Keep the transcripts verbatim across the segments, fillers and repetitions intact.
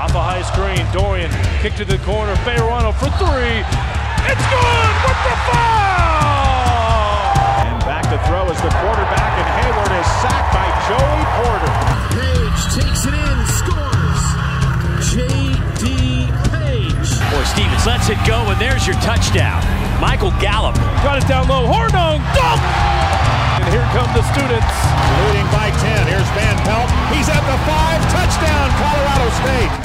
Off a high screen, Dorian kick to the corner, Fayerano for three. It's good with the foul! And back to throw is the quarterback, and Hayward is sacked by Joey Porter. Page takes it in, scores. J D. Page. Boy, Stevens lets it go, and there's your touchdown. Michael Gallup. Got it down low, Hornung, dunk! And here come the students. Leading by ten, here's Van Pelt. He's at the five, touchdown, Colorado State.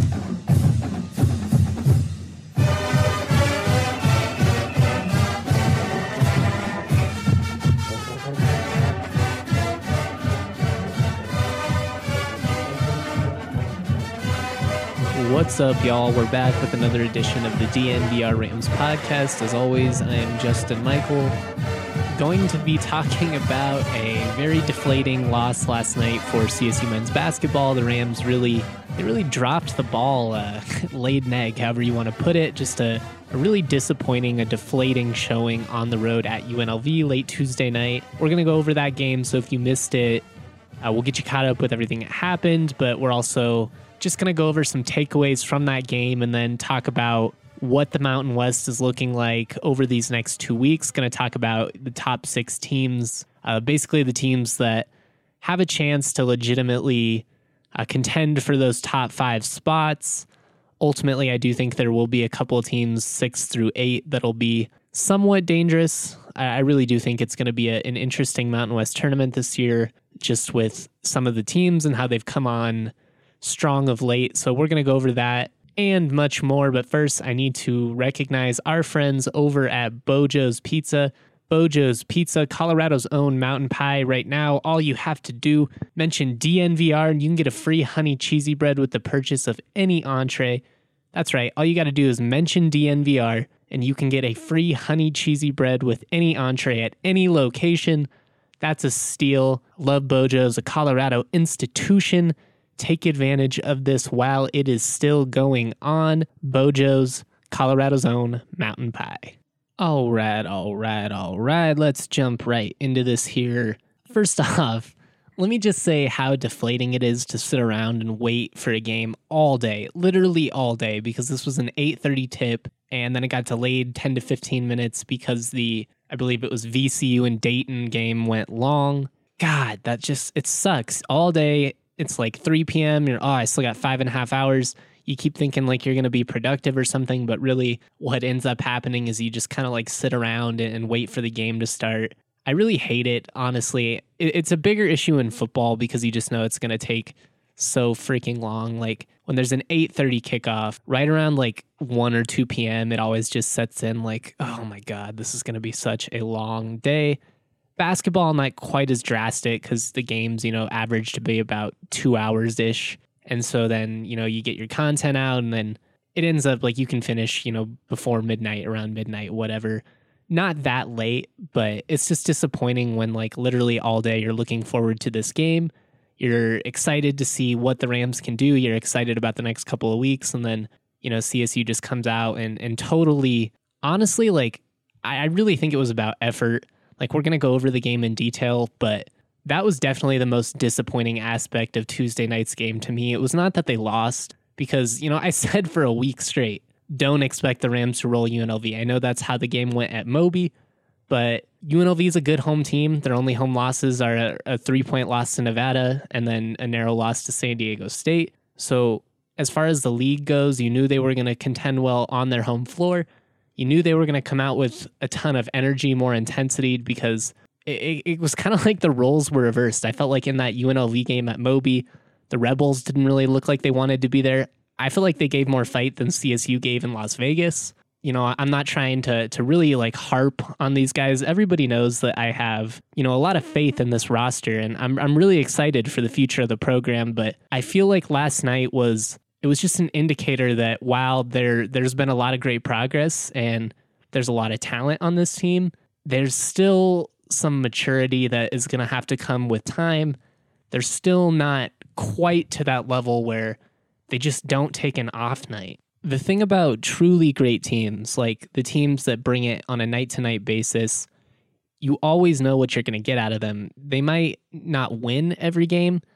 What's up, y'all? We're back with another edition of the D N V R Rams podcast. As always, I am Justin Michael, going to be talking about a very deflating loss last night for C S U men's basketball. The Rams really, they really dropped the ball, uh, laid an egg, however you want to put it. Just a, a really disappointing, a deflating showing on the road at U N L V late Tuesday night. We're going to go over that game, so if you missed it, uh, we'll get you caught up with everything that happened, but we're also just going to go over some takeaways from that game and then talk about what the Mountain West is looking like over these next two weeks. Going to talk about the top six teams, uh, basically the teams that have a chance to legitimately uh, contend for those top five spots. Ultimately, I do think there will be a couple of teams, six through eight, that'll be somewhat dangerous. I, I really do think it's going to be a, an interesting Mountain West tournament this year, just with some of the teams and how they've come on strong of late. So we're going to go over that and much more. But first, I need to recognize our friends over at Bojo's Pizza. Bojo's Pizza, Colorado's own mountain pie. Right now, all you have to do, mention D N V R, and you can get a free honey cheesy bread with the purchase of any entree. That's right. All you got to do is mention D N V R, and you can get a free honey cheesy bread with any entree at any location. That's a steal. Love Bojo's, a Colorado institution. Take advantage of this while it is still going on. Bojo's, Colorado's own mountain pie. All right, all right, all right. Let's jump right into this here. First off, let me just say how deflating it is to sit around and wait for a game all day, literally all day, because this was an eight thirty tip, and then it got delayed ten to fifteen minutes because the, I believe it was V C U and Dayton game went long. God, that just, it sucks. All day, it's like three p.m. You're, oh, I still got five and a half hours. You keep thinking like you're going to be productive or something, but really what ends up happening is you just kind of like sit around and wait for the game to start. I really hate it, honestly. It's a bigger issue in football because you just know it's going to take so freaking long. Like when there's an eight thirty kickoff, right around like one or two p.m., it always just sets in like, oh my God, this is going to be such a long day. Basketball, not quite as drastic because the games, you know, average to be about two hours-ish. And so then, you know, you get your content out and then it ends up like you can finish, you know, before midnight, around midnight, whatever. Not that late, but it's just disappointing when like literally all day you're looking forward to this game. You're excited to see what the Rams can do. You're excited about the next couple of weeks. And then, you know, C S U just comes out and, and totally, honestly, like, I, I really think it was about effort. Like, we're going to go over the game in detail, but that was definitely the most disappointing aspect of Tuesday night's game to me. It was not that they lost, because, you know, I said for a week straight, don't expect the Rams to roll U N L V. I know that's how the game went at Moby, but U N L V is a good home team. Their only home losses are a, a three-point loss to Nevada and then a narrow loss to San Diego State. So as far as the league goes, you knew they were going to contend well on their home floor. You knew they were going to come out with a ton of energy, more intensity, because it, it was kind of like the roles were reversed. I felt like in that U N L V game at Moby, the Rebels didn't really look like they wanted to be there. I feel like they gave more fight than C S U gave in Las Vegas. You know, I'm not trying to to really like harp on these guys. Everybody knows that I have, you know, a lot of faith in this roster, and I'm I'm really excited for the future of the program. But I feel like last night was it was just an indicator that while there there's been a lot of great progress and there's a lot of talent on this team, there's still some maturity that is going to have to come with time. They're still not quite to that level where they just don't take an off night. The thing about truly great teams, like the teams that bring it on a night-to-night basis, you always know what you're going to get out of them. They might not win every game,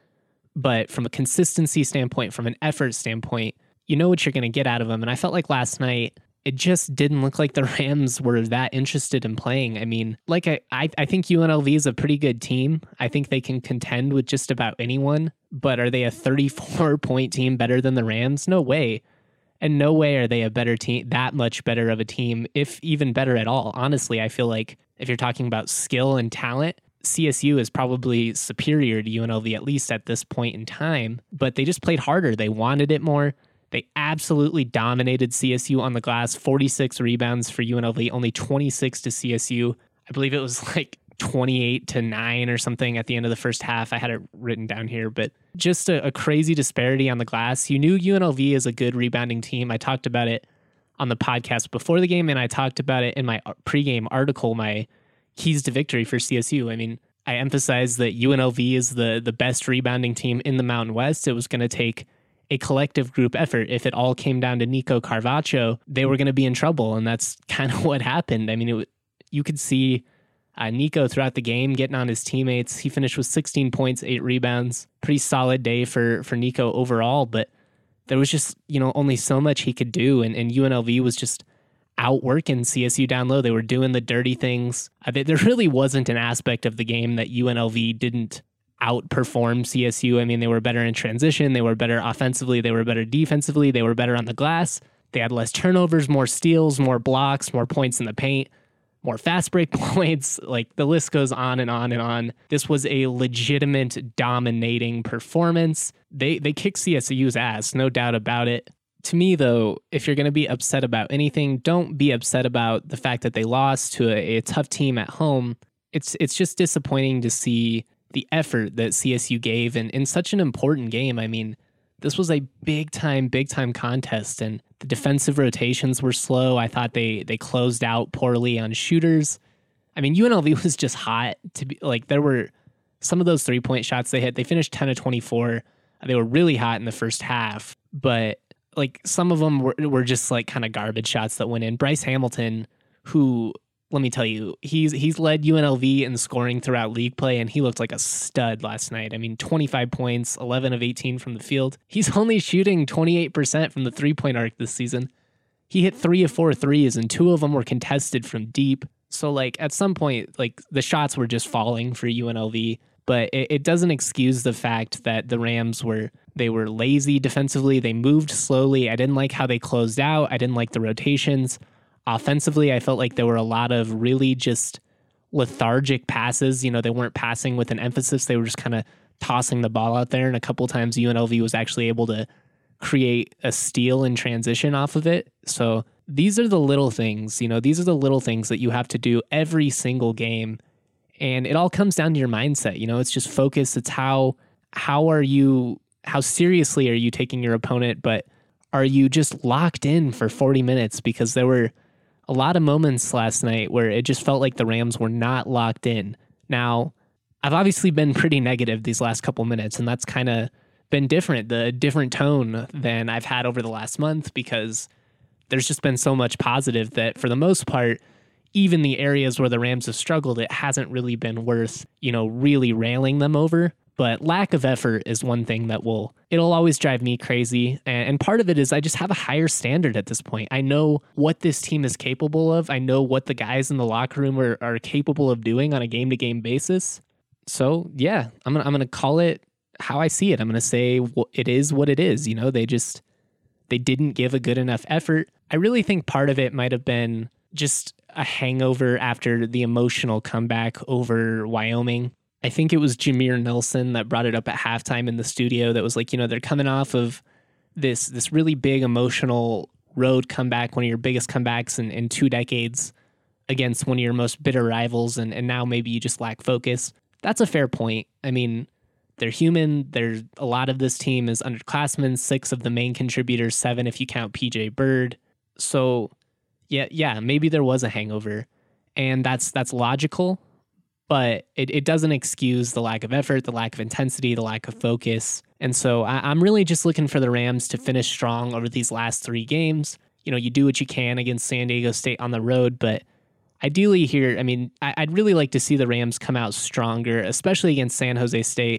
But from a consistency standpoint, from an effort standpoint, you know what you're going to get out of them. And I felt like last night, it just didn't look like the Rams were that interested in playing. I mean, like I, I, I think U N L V is a pretty good team. I think they can contend with just about anyone. But are they a thirty-four point team better than the Rams? No way. And no way are they a better team, that much better of a team, if even better at all. Honestly, I feel like if you're talking about skill and talent, C S U is probably superior to U N L V, at least at this point in time. But they just played harder. They wanted it more. They absolutely dominated C S U on the glass. forty-six rebounds for U N L V, only twenty-six to C S U. I believe it was like twenty-eight to nine or something at the end of the first half. I had it written down here, but just a, a crazy disparity on the glass. You knew U N L V is a good rebounding team. I talked about it on the podcast before the game, and I talked about it in my pregame article, my keys to victory for C S U. I mean, I emphasized that U N L V is the, the best rebounding team in the Mountain West. It was going to take a collective group effort. If it all came down to Nico Carvacho, they were going to be in trouble, and that's kind of what happened. I mean, it, you could see uh, Nico throughout the game getting on his teammates. He finished with sixteen points, eight rebounds. Pretty solid day for, for Nico overall, but there was just, you know, only so much he could do, and, and U N L V was just outworking C S U down low. They were doing the dirty things. I mean, there really wasn't an aspect of the game that U N L V didn't outperform C S U. I mean, they were better in transition. They were better offensively. They were better defensively. They were better on the glass. They had less turnovers, more steals, more blocks, more points in the paint, more fast break points. Like, the list goes on and on and on. This was a legitimate dominating performance. They they kicked C S U's ass, no doubt about it. To me, though, if you're going to be upset about anything, don't be upset about the fact that they lost to a, a tough team at home. It's it's just disappointing to see the effort that C S U gave in, in such an important game. I mean, this was a big time, big time contest, and the defensive rotations were slow. I thought they they closed out poorly on shooters. I mean, U N L V was just hot to be like, there were some of those three point shots they hit. They finished ten of twenty-four. They were really hot in the first half, but like some of them were, were just like kind of garbage shots that went in. Bryce Hamilton, who, let me tell you, he's he's led U N L V in scoring throughout league play, and he looked like a stud last night. I mean, twenty-five points, eleven of eighteen from the field. He's only shooting twenty-eight percent from the three-point arc this season. He hit three of four threes, and two of them were contested from deep. So, like, at some point, like, the shots were just falling for U N L V, but it, it doesn't excuse the fact that the Rams were, they were lazy defensively. They moved slowly. I didn't like how they closed out. I didn't like the rotations. Offensively, I felt like there were a lot of really just lethargic passes. You know, they weren't passing with an emphasis. They were just kind of tossing the ball out there. And a couple times U N L V was actually able to create a steal in transition off of it. So these are the little things, you know, these are the little things that you have to do every single game. And it all comes down to your mindset. You know, it's just focus. It's how, how are you, how seriously are you taking your opponent? But are you just locked in for forty minutes? Because there were a lot of moments last night where it just felt like the Rams were not locked in. Now, I've obviously been pretty negative these last couple minutes, and that's kind of been different, the different tone than I've had over the last month, because there's just been so much positive that for the most part, even the areas where the Rams have struggled, it hasn't really been worth, you know, really railing them over. But lack of effort is one thing that will, it'll always drive me crazy. And part of it is I just have a higher standard at this point. I know what this team is capable of. I know what the guys in the locker room are, are capable of doing on a game-to-game basis. So, yeah, I'm gonna, I'm gonna call it how I see it. I'm gonna say it is what it is. You know, they just, they didn't give a good enough effort. I really think part of it might have been just a hangover after the emotional comeback over Wyoming. I think it was Jameer Nelson that brought it up at halftime in the studio that was like, you know, they're coming off of this this really big emotional road comeback, one of your biggest comebacks in, in two decades against one of your most bitter rivals, and, and now maybe you just lack focus. That's a fair point. I mean, they're human. There's a lot of this team is underclassmen, six of the main contributors, seven if you count P J Bird. So, yeah, yeah, maybe there was a hangover, and that's that's logical. But it, it doesn't excuse the lack of effort, the lack of intensity, the lack of focus. And so I, I'm really just looking for the Rams to finish strong over these last three games. You know, you do what you can against San Diego State on the road, but ideally here, I mean, I, I'd really like to see the Rams come out stronger, especially against San Jose State.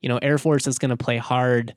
You know, Air Force is going to play hard.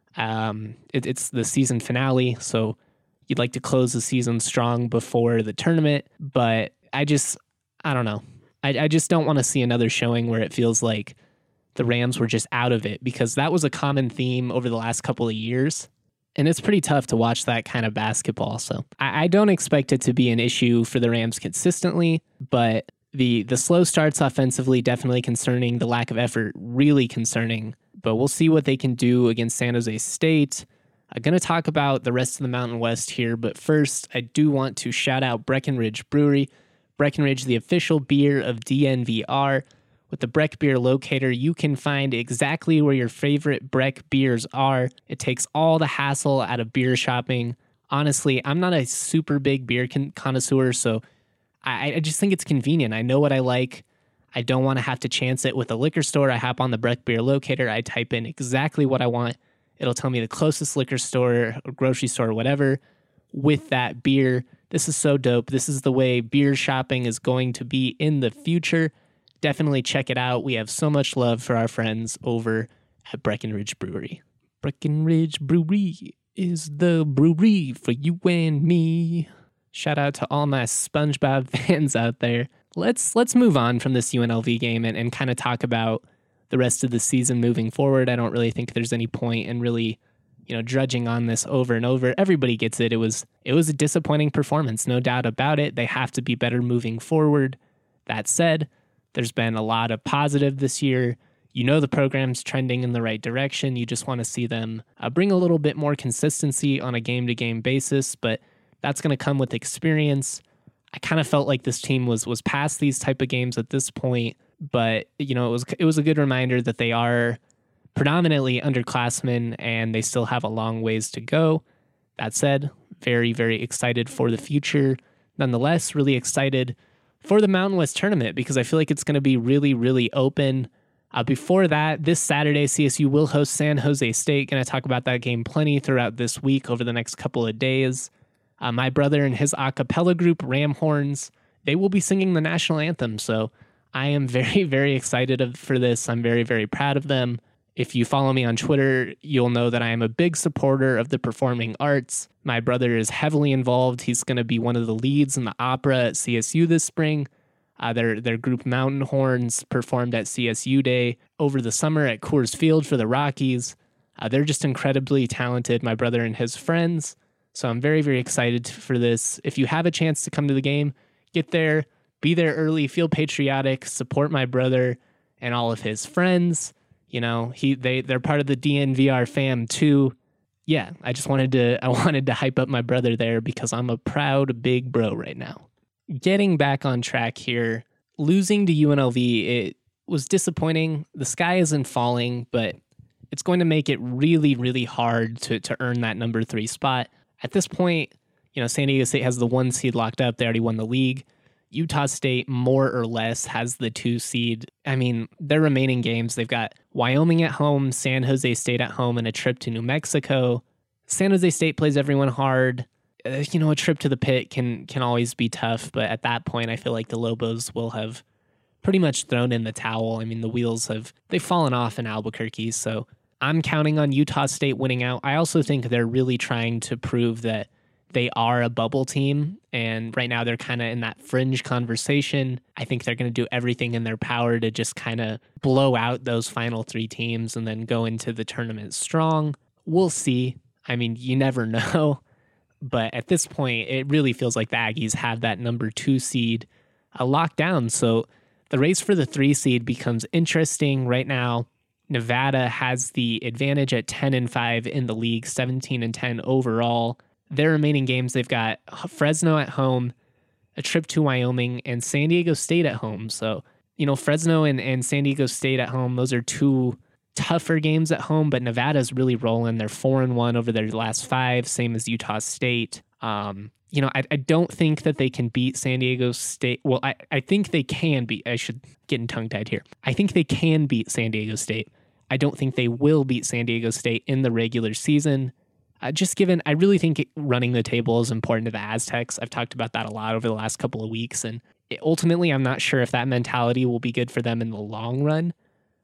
Um, it, it's the season finale, so you'd like to close the season strong before the tournament. But I just, I don't know. I, I just don't want to see another showing where it feels like the Rams were just out of it, because that was a common theme over the last couple of years. And it's pretty tough to watch that kind of basketball. So I, I don't expect it to be an issue for the Rams consistently, but the the slow starts offensively definitely concerning, the lack of effort really concerning. But we'll see what they can do against San Jose State. I'm going to talk about the rest of the Mountain West here, but first I do want to shout out Breckenridge Brewery. Breckenridge, the official beer of D N V R. With the Breck Beer Locator, you can find exactly where your favorite Breck beers are. It takes all the hassle out of beer shopping. Honestly, I'm not a super big beer con- connoisseur, so I, I just think it's convenient. I know what I like. I don't want to have to chance it with a liquor store. I hop on the Breck Beer Locator. I type in exactly what I want. It'll tell me the closest liquor store or grocery store or whatever with that beer. This is so dope. This is the way beer shopping is going to be in the future. Definitely check it out. We have so much love for our friends over at Breckenridge Brewery. Breckenridge Brewery is the brewery for you and me. Shout out to all my SpongeBob fans out there. Let's let's move on from this U N L V game and, and kind of talk about the rest of the season moving forward. I don't really think there's any point in really, you know, drudging on this over and over. Everybody gets it. It was it was a disappointing performance, no doubt about it. They have to be better moving forward. That said, there's been a lot of positive this year. You know the program's trending in the right direction. You just want to see them uh, bring a little bit more consistency on a game-to-game basis, but that's going to come with experience. I kind of felt like this team was was past these type of games at this point, but you know it was it was a good reminder that they are predominantly underclassmen and they still have a long ways to go. That said, very, very excited for the future. Nonetheless, really excited for the Mountain West tournament because I feel like it's going to be really, really open. Uh, before that, this Saturday, C S U will host San Jose State. Going to talk about that game plenty throughout this week over the next couple of days. Uh, my brother and his a cappella group, Ram Horns, they will be singing the national anthem. So I am very, very excited for this. I'm very, very proud of them. If you follow me on Twitter, you'll know that I am a big supporter of the performing arts. My brother is heavily involved. He's going to be one of the leads in the opera at C S U this spring. Uh, their their group Mountain Horns performed at C S U Day over the summer at Coors Field for the Rockies. Uh, they're just incredibly talented, my brother and his friends. So I'm very, very excited for this. If you have a chance to come to the game, get there, be there early, feel patriotic, support my brother and all of his friends. You know, he they they're part of the D N V R fam too. Yeah, I just wanted to I wanted to hype up my brother there because I'm a proud big bro right now. Getting back on track here, losing to U N L V, it was disappointing. The sky isn't falling, but it's going to make it really, really hard to to earn that number three spot. At this point, you know, San Diego State has the one seed locked up. They already won the league. Utah State, more or less, has the two seed. I mean, their remaining games, they've got Wyoming at home, San Jose State at home, and a trip to New Mexico. San Jose State plays everyone hard. Uh, you know, a trip to the pit can can always be tough, but at that point, I feel like the Lobos will have pretty much thrown in the towel. I mean, the wheels have, they've fallen off in Albuquerque, so I'm counting on Utah State winning out. I also think they're really trying to prove that they are a bubble team, and right now they're kind of in that fringe conversation. I think they're going to do everything in their power to just kind of blow out those final three teams and then go into the tournament strong. We'll see. I mean, you never know. But at this point, it really feels like the Aggies have that number two seed uh, locked down. So the race for the three seed becomes interesting right now. Nevada has the advantage at ten and five in the league, seventeen and ten overall. Their remaining games, they've got Fresno at home, a trip to Wyoming, and San Diego State at home. So, you know, Fresno and, and San Diego State at home, those are two tougher games at home, but Nevada's really rolling. They're four and one over their last five, same as Utah State. Um, you know, I, I don't think that they can beat San Diego State. Well, I, I think they can beat, I should get tongue-tied here. I think they can beat San Diego State. I don't think they will beat San Diego State in the regular season. Uh, just given, I really think running the table is important to the Aztecs. I've talked about that a lot over the last couple of weeks, and it, ultimately, I'm not sure if that mentality will be good for them in the long run.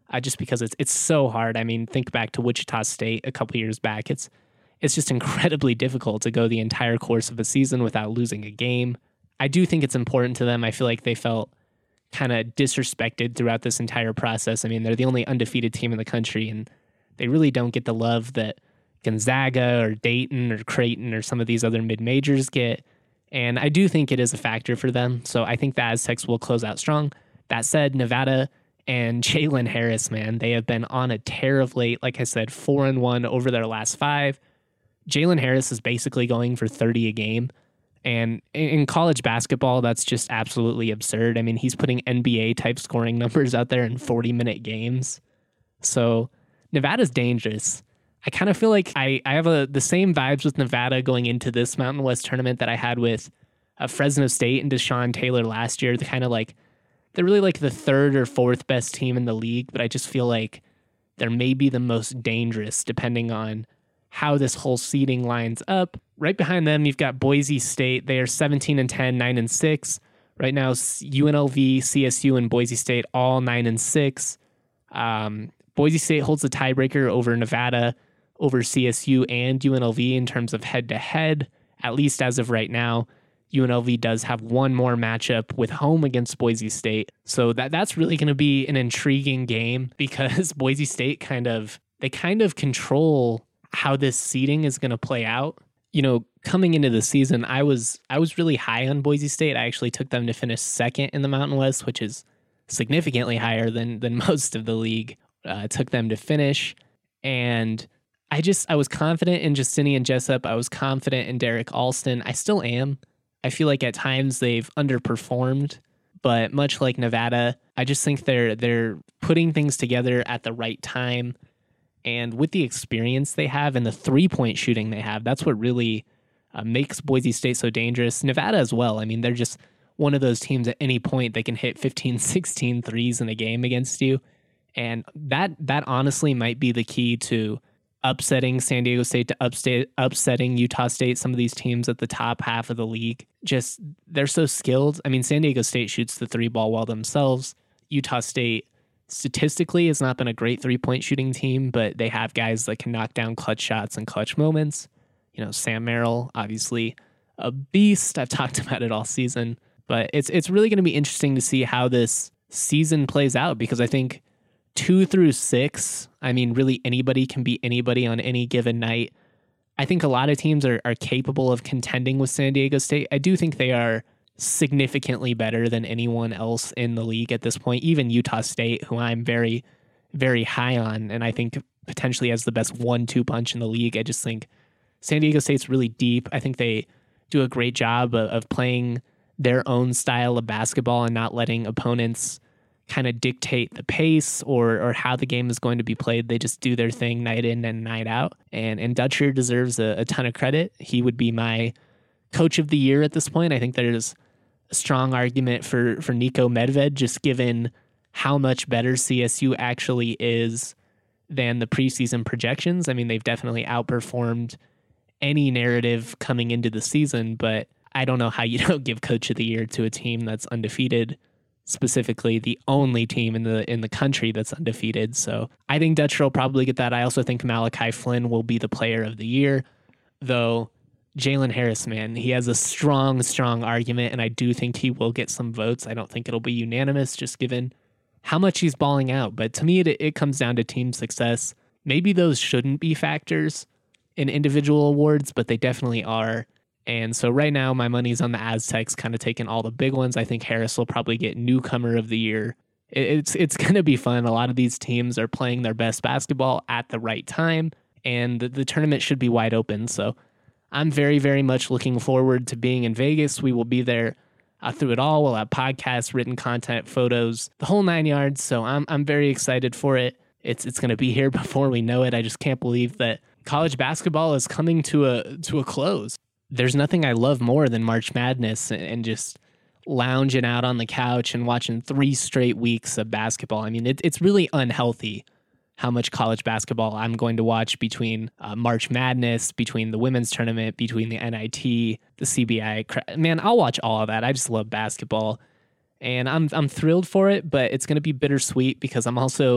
uh, just because it's it's so hard. I mean, think back to Wichita State a couple years back. It's it's just incredibly difficult to go the entire course of a season without losing a game. I do think it's important to them. I feel like they felt kind of disrespected throughout this entire process. I mean, they're the only undefeated team in the country, and they really don't get the love that Gonzaga or Dayton or Creighton or some of these other mid-majors get. And I do think it is a factor for them. So I think the Aztecs will close out strong. That said, Nevada and Jalen Harris, man, they have been on a tear of late. Like I said, four and one over their last five. Jalen Harris is basically going for thirty a game. And in college basketball, that's just absolutely absurd. I mean, he's putting N B A type scoring numbers out there in forty minute games. So Nevada's dangerous. I kind of feel like I, I have a, the same vibes with Nevada going into this Mountain West tournament that I had with uh, Fresno State and Deshaun Taylor last year. They're kind of like, they're really like the third or fourth best team in the league, but I just feel like they're maybe the most dangerous depending on how this whole seeding lines up. Right behind them, you've got Boise State. They are seventeen and ten, nine and six. Right now, U N L V, C S U, and Boise State all nine and six. Um, Boise State holds the tiebreaker over Nevada, over C S U and U N L V in terms of head-to-head, at least as of right now. U N L V does have one more matchup with home against Boise State. So that that's really going to be an intriguing game because Boise State kind of, they kind of control how this seeding is going to play out. You know, coming into the season, I was I was really high on Boise State. I actually took them to finish second in the Mountain West, which is significantly higher than than most of the league. Uh, took them to finish, and I just I was confident in Justinian Jessup. I was confident in Derek Alston. I still am. I feel like at times they've underperformed, but much like Nevada, I just think they're they're putting things together at the right time. And with the experience they have and the three-point shooting they have, that's what really uh, makes Boise State so dangerous. Nevada as well. I mean, they're just one of those teams at any point they can hit fifteen, sixteen threes in a game against you. And that that honestly might be the key to upsetting San Diego State, to upstate, upsetting Utah State, some of these teams at the top half of the league. Just, they're so skilled. I mean, San Diego State shoots the three ball well themselves. Utah State statistically has not been a great three-point shooting team, but they have guys that can knock down clutch shots and clutch moments. You know, Sam Merrill, obviously a beast. I've talked about it all season, but it's it's really going to be interesting to see how this season plays out, because I think two through six, I mean, really anybody can beat anybody on any given night. I think a lot of teams are, are capable of contending with San Diego State. I do think they are significantly better than anyone else in the league at this point, even Utah State, who I'm very, very high on, and I think potentially has the best one two punch in the league. I just think San Diego State's really deep. I think they do a great job of, of playing their own style of basketball and not letting opponents kind of dictate the pace or or how the game is going to be played. They just do their thing night in and night out. And and Dutcher deserves a, a ton of credit. He would be my coach of the year at this point. I think there's a strong argument for, for Nico Medved, just given how much better C S U actually is than the preseason projections. I mean, they've definitely outperformed any narrative coming into the season, but I don't know how you don't give coach of the year to a team that's undefeated, specifically the only team in the in the country that's undefeated. So I think Dutcher will probably get that. I also think Malachi Flynn will be the player of the year, though Jalen Harris, man, he has a strong, strong argument, and I do think he will get some votes. I don't think it'll be unanimous, just given how much he's balling out. But to me, it, it comes down to team success. Maybe those shouldn't be factors in individual awards, but they definitely are. And so right now, my money's on the Aztecs, kind of taking all the big ones. I think Harris will probably get newcomer of the year. It, it's it's going to be fun. A lot of these teams are playing their best basketball at the right time, and the, the tournament should be wide open. So I'm very, very much looking forward to being in Vegas. We will be there uh, through it all. We'll have podcasts, written content, photos, the whole nine yards. So I'm I'm very excited for it. It's it's going to be here before we know it. I just can't believe that college basketball is coming to a to a close. There's nothing I love more than March Madness and, and just lounging out on the couch and watching three straight weeks of basketball. I mean, it, it's really unhealthy how much college basketball I'm going to watch between uh, March Madness, between the women's tournament, between the N I T, the C B I. Man, I'll watch all of that. I just love basketball, and I'm I'm thrilled for it, but it's going to be bittersweet because I'm also,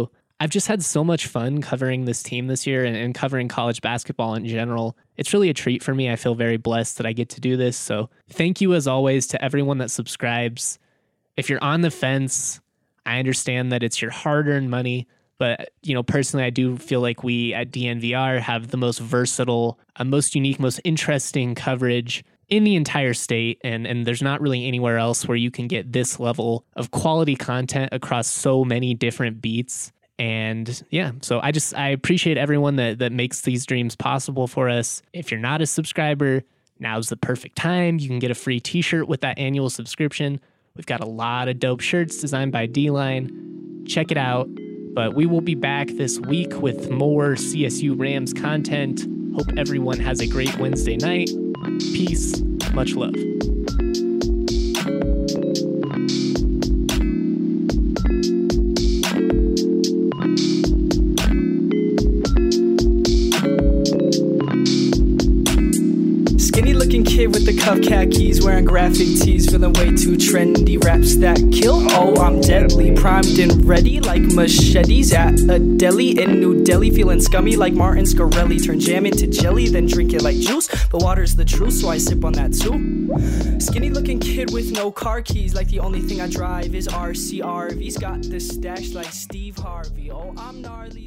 I've just had so much fun covering this team this year and, and covering college basketball in general. It's really a treat for me. I feel very blessed that I get to do this. So thank you as always to everyone that subscribes. If you're on the fence, I understand that it's your hard-earned money. But, you know, personally, I do feel like we at D N V R have the most versatile, uh, most unique, most interesting coverage in the entire state. And, and there's not really anywhere else where you can get this level of quality content across so many different beats. And yeah, so I just, I appreciate everyone that, that makes these dreams possible for us. If you're not a subscriber, now's the perfect time. You can get a free t-shirt with that annual subscription. We've got a lot of dope shirts designed by D-Line. Check it out. But we will be back this week with more C S U Rams content. Hope everyone has a great Wednesday night. Peace. Much love. Skinny looking kid with the cuff khakis, wearing graphic tees, feeling way too trendy. Raps that kill, oh I'm deadly, primed and ready like machetes at a deli in New Delhi. Feeling scummy like Martin Scarelli, turn jam into jelly then drink it like juice, but water's the truth so I sip on that too. Skinny looking kid with no car keys, like the only thing I drive is R C R Vs. Got the stash like Steve Harvey, oh I'm gnarly.